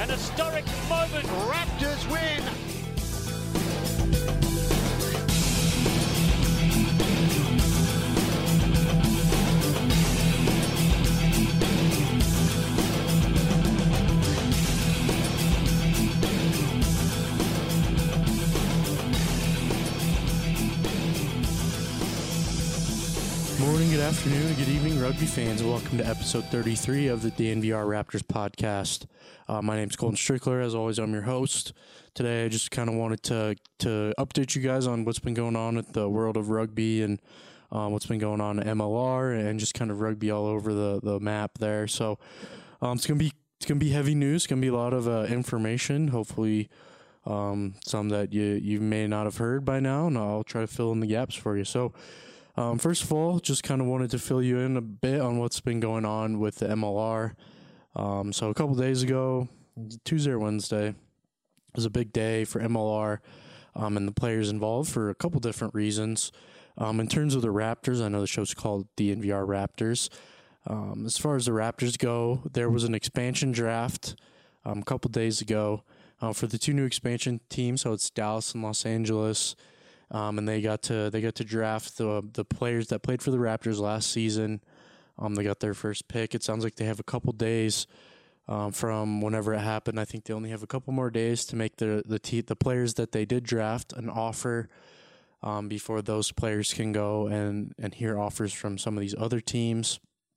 An historic moment. Raptors win. Morning, good afternoon, good evening, rugby fans. Welcome to episode 33 of the DNVR Raptors podcast. My name's Colton Strickler. As always, I'm your host. Today, I just kind of wanted to update you guys on what's been going on at the world of rugby and what's been going on at MLR and just kind of rugby all over the map there. So it's gonna be heavy news. It's gonna be a lot of information. Hopefully, some that you may not have heard by now, and I'll try to fill in the gaps for you. So. First of all, just kind of wanted to fill you in a bit on what's been going on with the MLR. So a couple days ago, Tuesday or Wednesday, was a big day for MLR and the players involved for a couple different reasons. In terms of the Raptors, I know the show's called DNVR Raptors. As far as the Raptors go, there was an expansion draft a couple days ago for the two new expansion teams. So it's Dallas and Los Angeles. And they got to draft the players that played for the Raptors last season. They got their first pick. It sounds like they have a couple days from whenever it happened. I think they only have a couple more days to make the players that they did draft an offer before those players can go and hear offers from some of these other teams.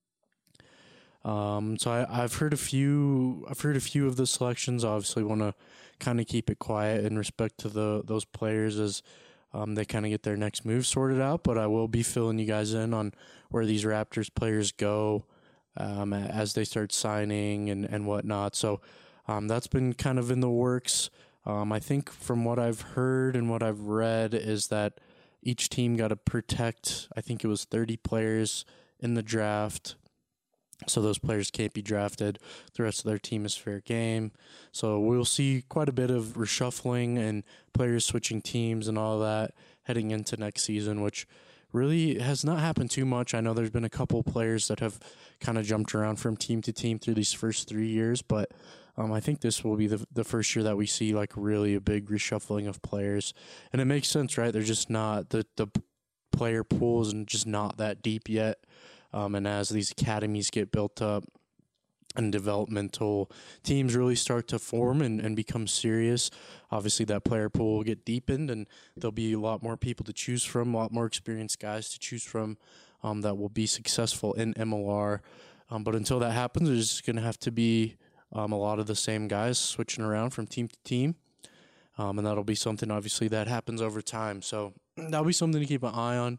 So I've heard a few of the selections. I obviously want to kind of keep it quiet in respect to those players as they kind of get their next move sorted out, but I will be filling you guys in on where these Raptors players go as they start signing and whatnot. So that's been kind of in the works. I think from what I've heard and what I've read is that each team got to protect, I think it was 30 players in the draft. So those players can't be drafted. The rest of their team is fair game. So we'll see quite a bit of reshuffling and players switching teams and all that heading into next season, which really has not happened too much. I know there's been a couple players that have kind of jumped around from team to team through these first 3 years, but I think this will be the first year that we see like really a big reshuffling of players. And it makes sense, right? They're just not, the player pool is just not that deep yet. And as these academies get built up and developmental teams really start to form and become serious, obviously that player pool will get deepened and there'll be a lot more people to choose from, a lot more experienced guys to choose from that will be successful in MLR. But until that happens, there's going to have to be a lot of the same guys switching around from team to team. And that'll be something, obviously, that happens over time. So that'll be something to keep an eye on.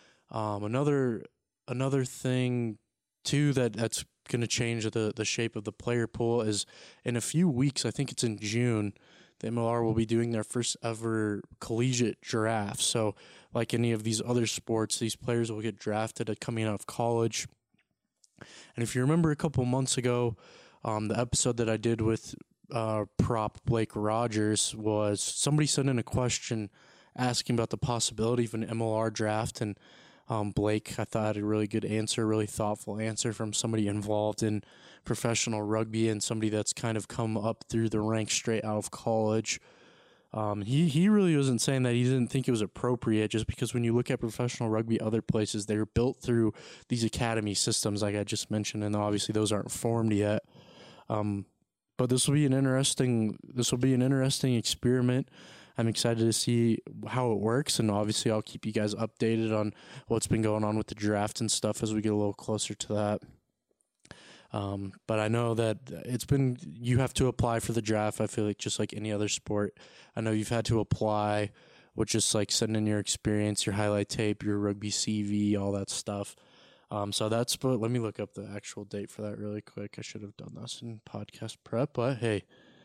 Another thing, too, that's going to change the shape of the player pool is in a few weeks, I think it's in June, the MLR will be doing their first ever collegiate draft. So like any of these other sports, these players will get drafted at coming out of college. And if you remember a couple months ago, the episode that I did with prop Blake Rogers was somebody sent in a question asking about the possibility of an MLR draft, and Blake, I thought, had a really good answer, really thoughtful answer from somebody involved in professional rugby and somebody that's kind of come up through the ranks straight out of college. He really wasn't saying that he didn't think it was appropriate, just because when you look at professional rugby other places, they're built through these academy systems like I just mentioned, and obviously those aren't formed yet. But this will be an interesting experiment. I'm excited to see how it works, and obviously I'll keep you guys updated on what's been going on with the draft and stuff as we get a little closer to that. But I know that you have to apply for the draft. I feel like just like any other sport, I know you've had to apply, which is like send in your experience, your highlight tape, your rugby CV, all that stuff. So let me look up the actual date for that really quick. I should have done this in podcast prep, but hey,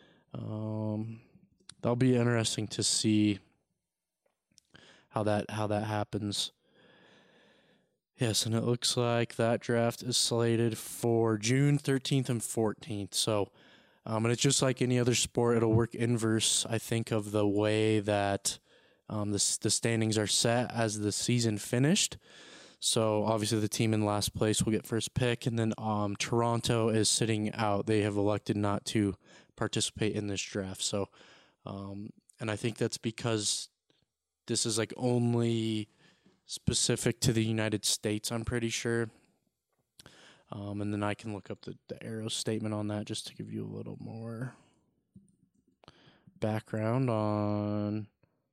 that'll be interesting to see how that happens. Yes, and it looks like that draft is slated for June 13th and 14th. So, and it's just like any other sport, it'll work inverse, I think, of the way that the standings are set as the season finished. So obviously the team in last place will get first pick, and then Toronto is sitting out. They have elected not to participate in this draft. So, and I think that's because this is like only specific to the United States, I'm pretty sure. And then I can look up the Arrows statement on that just to give you a little more background on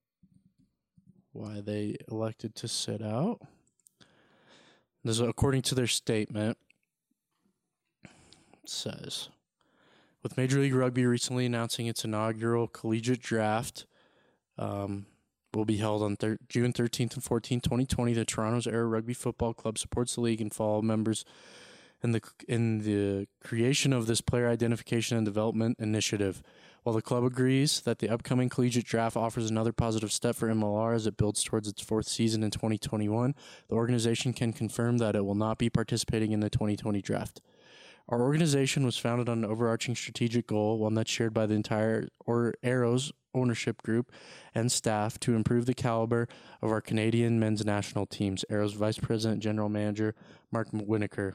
why they elected to sit out. This is according to their statement. It says, with Major League Rugby recently announcing its inaugural collegiate draft will be held on June 13th and 14th, 2020, the Toronto's Arrow Rugby Football Club supports the league and follow members in the creation of this player identification and development initiative. While the club agrees that the upcoming collegiate draft offers another positive step for MLR as it builds towards its fourth season in 2021, the organization can confirm that it will not be participating in the 2020 draft. Our organization was founded on an overarching strategic goal, one that's shared by the entire Arrows ownership group and staff, to improve the caliber of our Canadian men's national teams. Arrows Vice President General Manager Mark Winokur.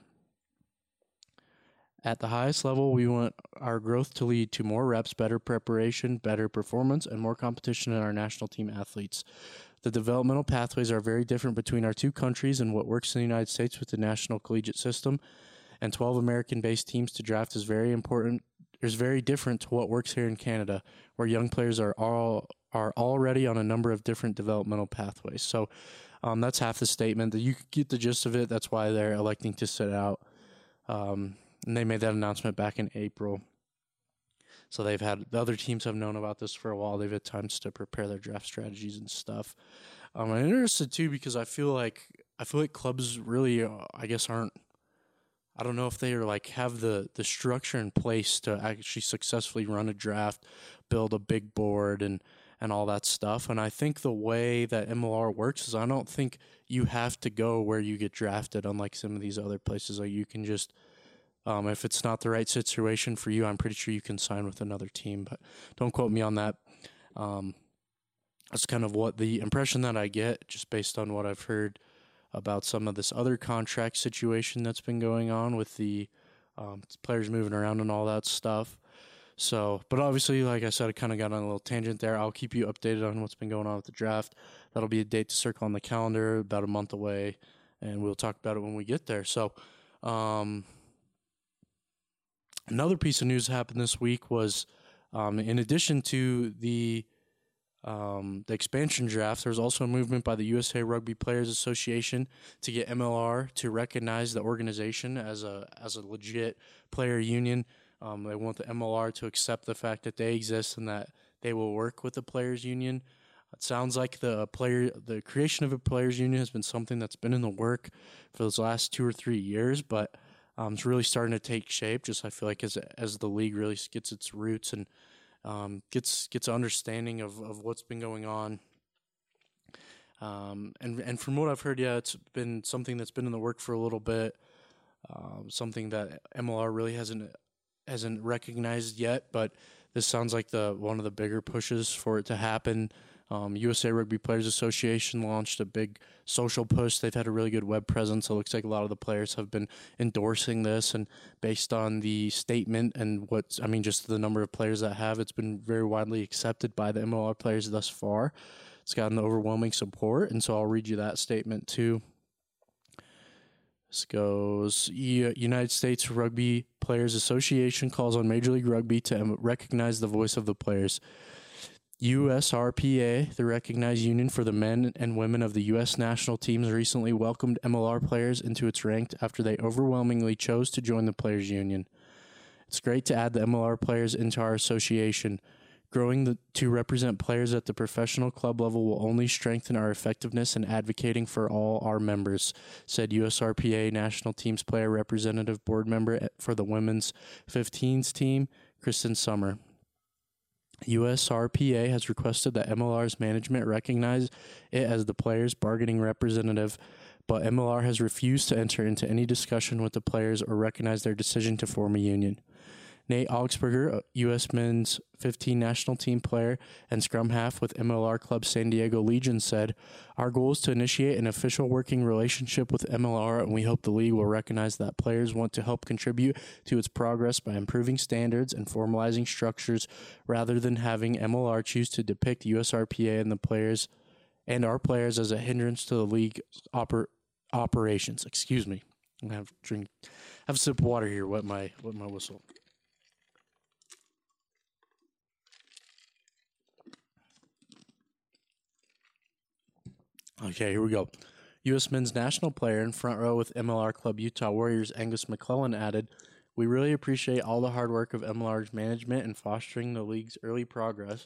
At the highest level, we want our growth to lead to more reps, better preparation, better performance, and more competition in our national team athletes. The developmental pathways are very different between our two countries, and what works in the United States with the national collegiate system and 12 American-based teams to draft is very different to what works here in Canada, where young players are already on a number of different developmental pathways. So that's half the statement. You get the gist of it. That's why they're electing to sit out. And they made that announcement back in April. So the other teams have known about this for a while. They've had times to prepare their draft strategies and stuff. I'm interested too because I feel like clubs really, I guess, aren't. I don't know if they are like have the structure in place to actually successfully run a draft, build a big board, and all that stuff. And I think the way that MLR works is I don't think you have to go where you get drafted, unlike some of these other places. Like you can just. If it's not the right situation for you, I'm pretty sure you can sign with another team, but don't quote me on that. That's kind of what the impression that I get just based on what I've heard about some of this other contract situation that's been going on with the players moving around and all that stuff. So, but obviously, like I said, I kind of got on a little tangent there. I'll keep you updated on what's been going on with the draft. That'll be a date to circle on the calendar about a month away, and we'll talk about it when we get there. So, another piece of news that happened this week was, in addition to the expansion draft, there's also a movement by the USA Rugby Players Association to get MLR to recognize the organization as a legit player union. They want the MLR to accept the fact that they exist and that they will work with the players union. It sounds like the creation of a players union has been something that's been in the work for those last 2 or 3 years, but it's really starting to take shape. Just I feel like as the league really gets its roots and gets understanding of what's been going on. And from what I've heard, yeah, it's been something that's been in the work for a little bit. Something that MLR really hasn't recognized yet, but this sounds like one of the bigger pushes for it to happen. USA Rugby Players Association launched a big social push. They've had a really good web presence. It looks like a lot of the players have been endorsing this, and based on the statement and just the number of players that have, it's been very widely accepted by the MLR players thus far. It's gotten overwhelming support, and so I'll read you that statement too. This goes, United States Rugby Players Association calls on Major League Rugby to recognize the voice of the players. USRPA, the recognized union for the men and women of the U.S. national teams, recently welcomed MLR players into its ranks after they overwhelmingly chose to join the players' union. It's great to add the MLR players into our association. Growing to represent players at the professional club level will only strengthen our effectiveness in advocating for all our members, said USRPA National Teams Player Representative Board Member for the Women's 15s team, Kristen Summer. USRPA has requested that MLR's management recognize it as the players' bargaining representative, but MLR has refused to enter into any discussion with the players or recognize their decision to form a union. Nate Augsburger, U.S. men's 15 national team player and scrum half with MLR Club San Diego Legion, said, "Our goal is to initiate an official working relationship with MLR, and we hope the league will recognize that players want to help contribute to its progress by improving standards and formalizing structures rather than having MLR choose to depict USRPA and the players and our players as a hindrance to the league operations." Excuse me. I'm gonna have a sip of water here. Wet my whistle. Okay, here we go. U.S. men's national player in front row with MLR Club Utah Warriors Angus McClellan added, "We really appreciate all the hard work of MLR's management in fostering the league's early progress.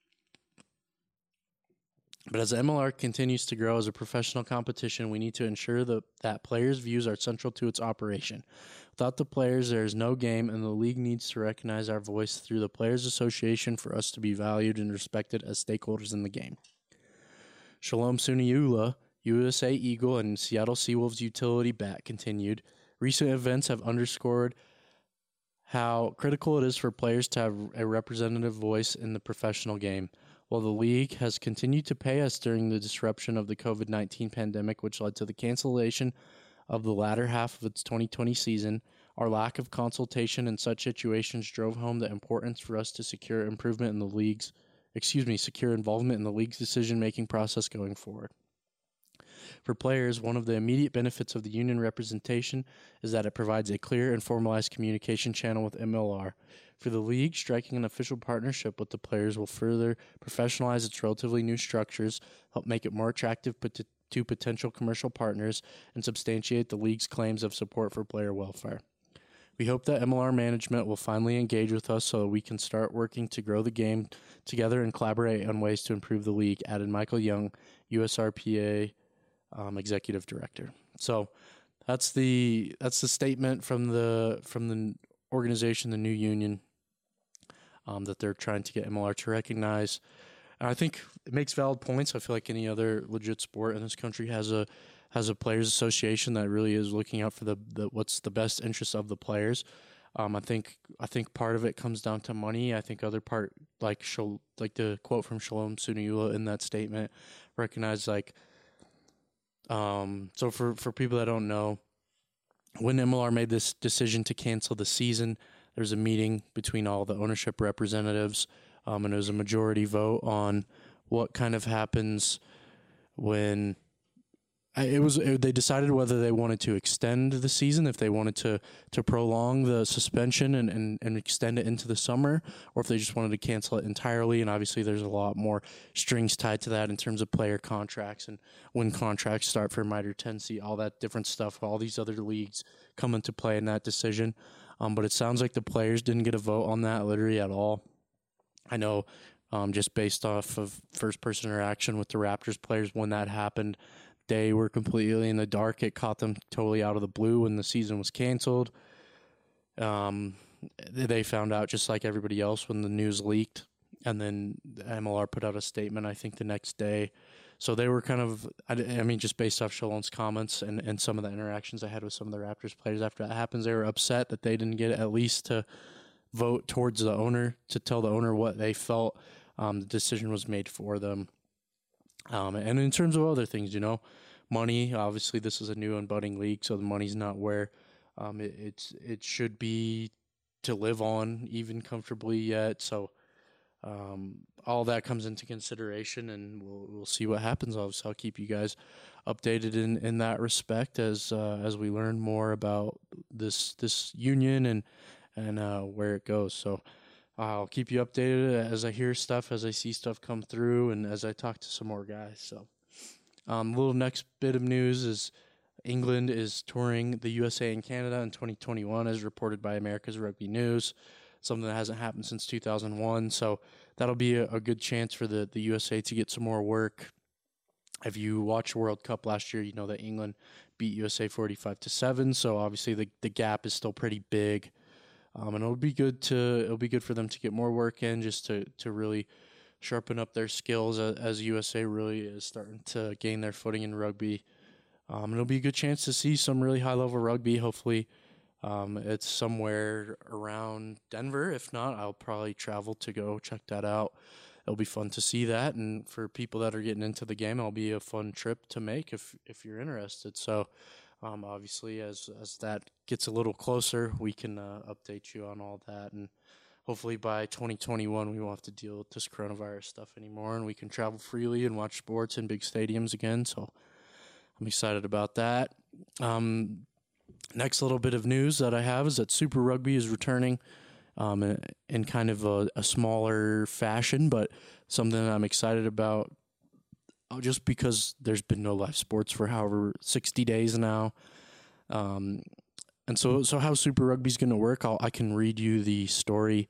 But as MLR continues to grow as a professional competition, we need to ensure that players' views are central to its operation. Without the players, there is no game, and the league needs to recognize our voice through the Players Association for us to be valued and respected as stakeholders in the game." Shalom Suniula, USA Eagle and Seattle Seawolves utility bat, continued, "Recent events have underscored how critical it is for players to have a representative voice in the professional game. While the league has continued to pay us during the disruption of the COVID-19 pandemic, which led to the cancellation of the latter half of its 2020 season, our lack of consultation in such situations drove home the importance for us to secure involvement in the league's decision-making process going forward. For players, one of the immediate benefits of the union representation is that it provides a clear and formalized communication channel with MLR. For the league, striking an official partnership with the players will further professionalize its relatively new structures, help make it more attractive to potential commercial partners, and substantiate the league's claims of support for player welfare. We hope that MLR management will finally engage with us so that we can start working to grow the game together and collaborate on ways to improve the league," added Michael Young, USRPA executive director. So that's the statement from the organization, the new union, that they're trying to get MLR to recognize. And I think it makes valid points. I feel like any other legit sport in this country has a players association that really is looking out for the what's the best interest of the players. I think part of it comes down to money. I think other part, like the quote from Shalom Suniula in that statement, recognize so for people that don't know, when MLR made this decision to cancel the season, there was a meeting between all the ownership representatives, and it was a majority vote on what kind of happens when they decided whether they wanted to extend the season, if they wanted to prolong the suspension and extend it into the summer, or if they just wanted to cancel it entirely. And obviously there's a lot more strings tied to that in terms of player contracts and when contracts start for Mitre 10C, all that different stuff. All these other leagues come into play in that decision. But it sounds like the players didn't get a vote on that literally at all. I know just based off of first-person interaction with the Raptors players when that happened, they were completely in the dark. It caught them totally out of the blue when the season was canceled. They found out just like everybody else when the news leaked, and then MLR put out a statement, I think, the next day. So they were kind of, I mean, just based off Shalom's comments and some of the interactions I had with some of the Raptors players after that happens, they were upset that they didn't get at least to vote towards the owner, to tell the owner what they felt the decision was made for them. And in terms of other things, money, obviously this is a new and budding league, so the money's not where it should be to live on even comfortably yet. So all that comes into consideration, and we'll see what happens. Obviously, I'll keep you guys updated in that respect as we learn more about this union and where it goes. So I'll keep you updated as I hear stuff, as I see stuff come through, and as I talk to some more guys. So little next bit of news is England is touring the USA and Canada in 2021, as reported by America's Rugby News, something that hasn't happened since 2001. So that'll be a good chance for the USA to get some more work. If you watched World Cup last year, you know that England beat USA 45-7. So obviously the gap is still pretty big. And it'll be good for them to get more work in, just to really sharpen up their skills as USA really is starting to gain their footing in rugby. And it'll be a good chance to see some really high level rugby. Hopefully, It's somewhere around Denver. If not, I'll probably travel to go check that out. It'll be fun to see that, and for people that are getting into the game, it'll be a fun trip to make if you're interested. So, obviously, as that gets a little closer, we can update you on all that, and hopefully by 2021 we won't have to deal with this coronavirus stuff anymore, and we can travel freely and watch sports in big stadiums again. So I'm excited about that. Next little bit of news that I have is that Super Rugby is returning in kind of a smaller fashion, but something that I'm excited about just because there's been no live sports for however 60 days now. And so how Super Rugby is going to work, I can read you the story.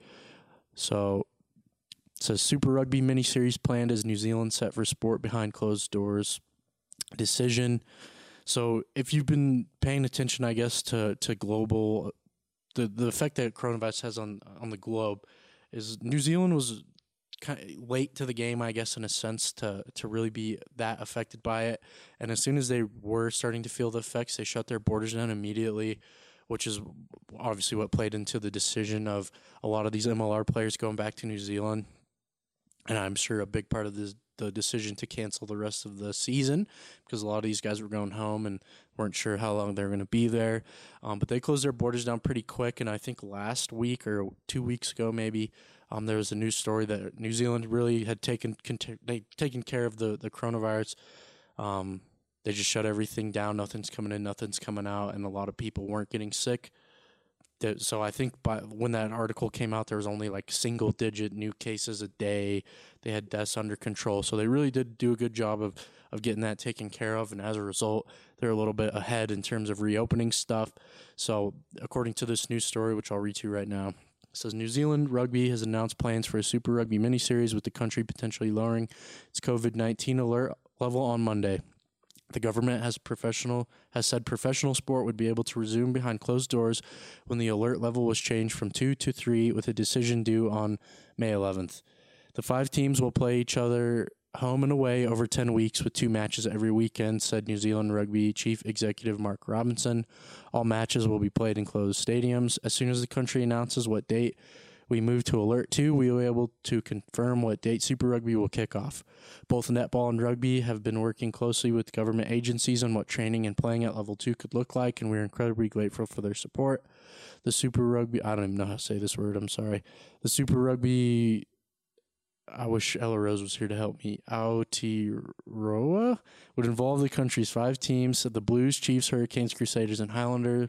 So it says Super Rugby miniseries planned as New Zealand set for sport behind closed doors. Decision. So if you've been paying attention, I guess, to global, the effect that coronavirus has on the globe is New Zealand was kind of late to the game, I guess, in a sense, to really be that affected by it. And as soon as they were starting to feel the effects, they shut their borders down immediately, which is obviously what played into the decision of a lot of these MLR players going back to New Zealand. And I'm sure a big part of the decision to cancel the rest of the season because a lot of these guys were going home and weren't sure how long they were going to be there. But they closed their borders down pretty quick. And I think last week or 2 weeks ago maybe, there was a news story that New Zealand really had taken care of the coronavirus. They just shut everything down. Nothing's coming in, nothing's coming out, and a lot of people weren't getting sick. So I think when that article came out, there was only like single-digit new cases a day. They had deaths under control. So they really did do a good job of getting that taken care of. And as a result, they're a little bit ahead in terms of reopening stuff. So according to this news story, which I'll read to you right now, it says New Zealand Rugby has announced plans for a Super Rugby miniseries with the country potentially lowering its COVID-19 alert level on Monday. The government has said professional sport would be able to resume behind closed doors when the alert level was changed from 2 to 3 with a decision due on May 11th. The 5 teams will play each other home and away over 10 weeks with 2 matches every weekend, said New Zealand Rugby Chief Executive Mark Robinson. All matches will be played in closed stadiums. As soon as the country announces what date we move to Alert 2, we will be able to confirm what date Super Rugby will kick off. Both netball and rugby have been working closely with government agencies on what training and playing at Level 2 could look like, and we're incredibly grateful for their support. The Super Rugby, I don't even know how to say this word, I'm sorry. The Super Rugby, I wish Ella Rose was here to help me, Aotearoa, would involve the country's 5 teams, the Blues, Chiefs, Hurricanes, Crusaders, and Highlanders.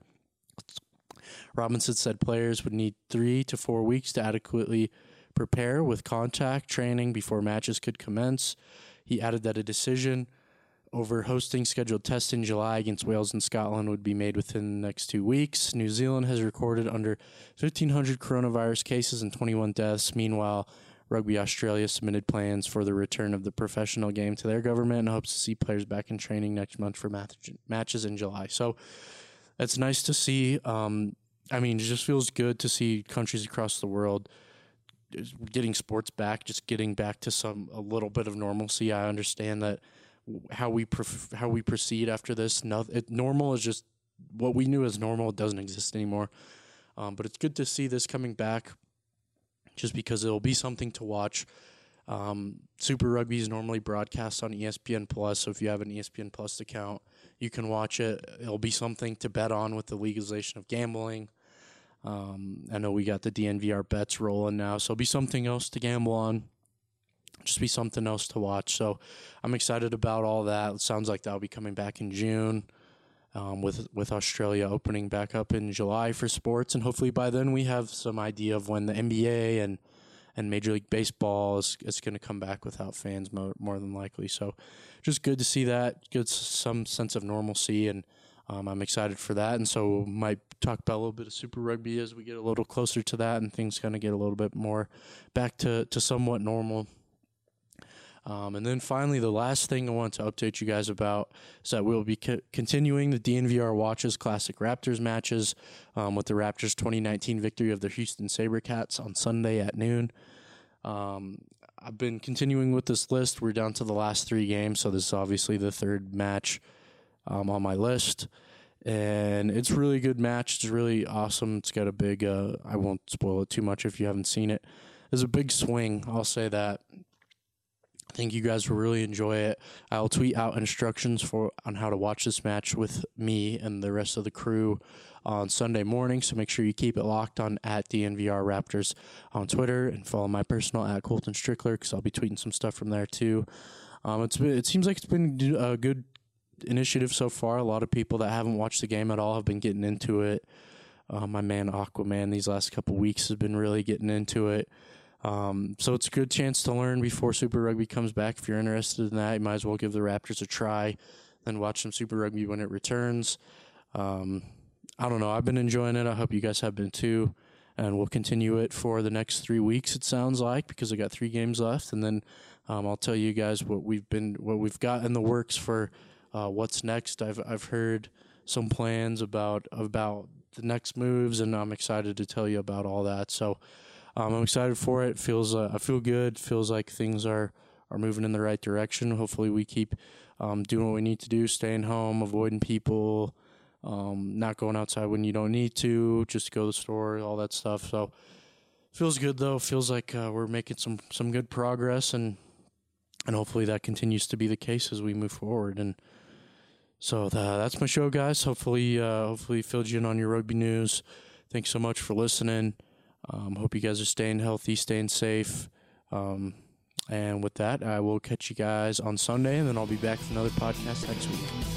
Robinson said players would need 3 to 4 weeks to adequately prepare with contact training before matches could commence. He added that a decision over hosting scheduled tests in July against Wales and Scotland would be made within the next 2 weeks. New Zealand has recorded under 1,500 coronavirus cases and 21 deaths. Meanwhile, Rugby Australia submitted plans for the return of the professional game to their government and hopes to see players back in training next month for matches in July. So it's nice to see. It just feels good to see countries across the world getting sports back, just getting back to a little bit of normalcy. I understand that how we proceed after this. Normal is just what we knew as normal. It doesn't exist anymore. But it's good to see this coming back, just because it'll be something to watch. Super Rugby is normally broadcast on ESPN Plus, so if you have an ESPN Plus account, you can watch it. It'll be something to bet on with the legalization of gambling. I know we got the DNVR bets rolling now, so it'll be something else to gamble on. Just be something else to watch. So I'm excited about all that. It sounds like that'll be coming back in June, with Australia opening back up in July for sports, and hopefully by then we have some idea of when the NBA and Major League Baseball is going to come back without fans more than likely. So just good to see that, good some sense of normalcy, and I'm excited for that. And so we might talk about a little bit of Super Rugby as we get a little closer to that and things kind of get a little bit more back to somewhat normal. And then finally, the last thing I want to update you guys about is that we'll be continuing the DNVR Watches Classic Raptors matches with the Raptors' 2019 victory of the Houston SaberCats on Sunday at noon. I've been continuing with this list. We're down to the last 3 games, so this is obviously the 3rd match on my list. and it's a really good match. It's really awesome. It's got a big, I won't spoil it too much if you haven't seen it. There's a big swing, I'll say that. I think you guys will really enjoy it. I'll tweet out instructions on how to watch this match with me and the rest of the crew on Sunday morning, so make sure you keep it locked on at DNVR Raptors on Twitter, and follow my personal at Colton Strickler, because I'll be tweeting some stuff from there too. It seems like it's been a good initiative so far. A lot of people that haven't watched the game at all have been getting into it. My man Aquaman these last couple weeks has been really getting into it. So it's a good chance to learn before Super Rugby comes back. If you're interested in that, you might as well give the Raptors a try, then watch some Super Rugby when it returns. I don't know. I've been enjoying it. I hope you guys have been too. And we'll continue it for the next 3 weeks, it sounds like, because I got 3 games left. And then I'll tell you guys what we've got in the works for what's next. I've heard some plans about the next moves, and I'm excited to tell you about all that. So I'm excited for it. I feel good. Feels like things are moving in the right direction. Hopefully we keep doing what we need to do, staying home, avoiding people, not going outside when you don't need to, just go to the store, all that stuff. So feels good though. Feels like we're making some good progress, and hopefully that continues to be the case as we move forward. And so that's my show, guys. Hopefully filled you in on your rugby news. Thanks so much for listening. Hope you guys are staying healthy, staying safe. And with that, I will catch you guys on Sunday, and then I'll be back for another podcast next week.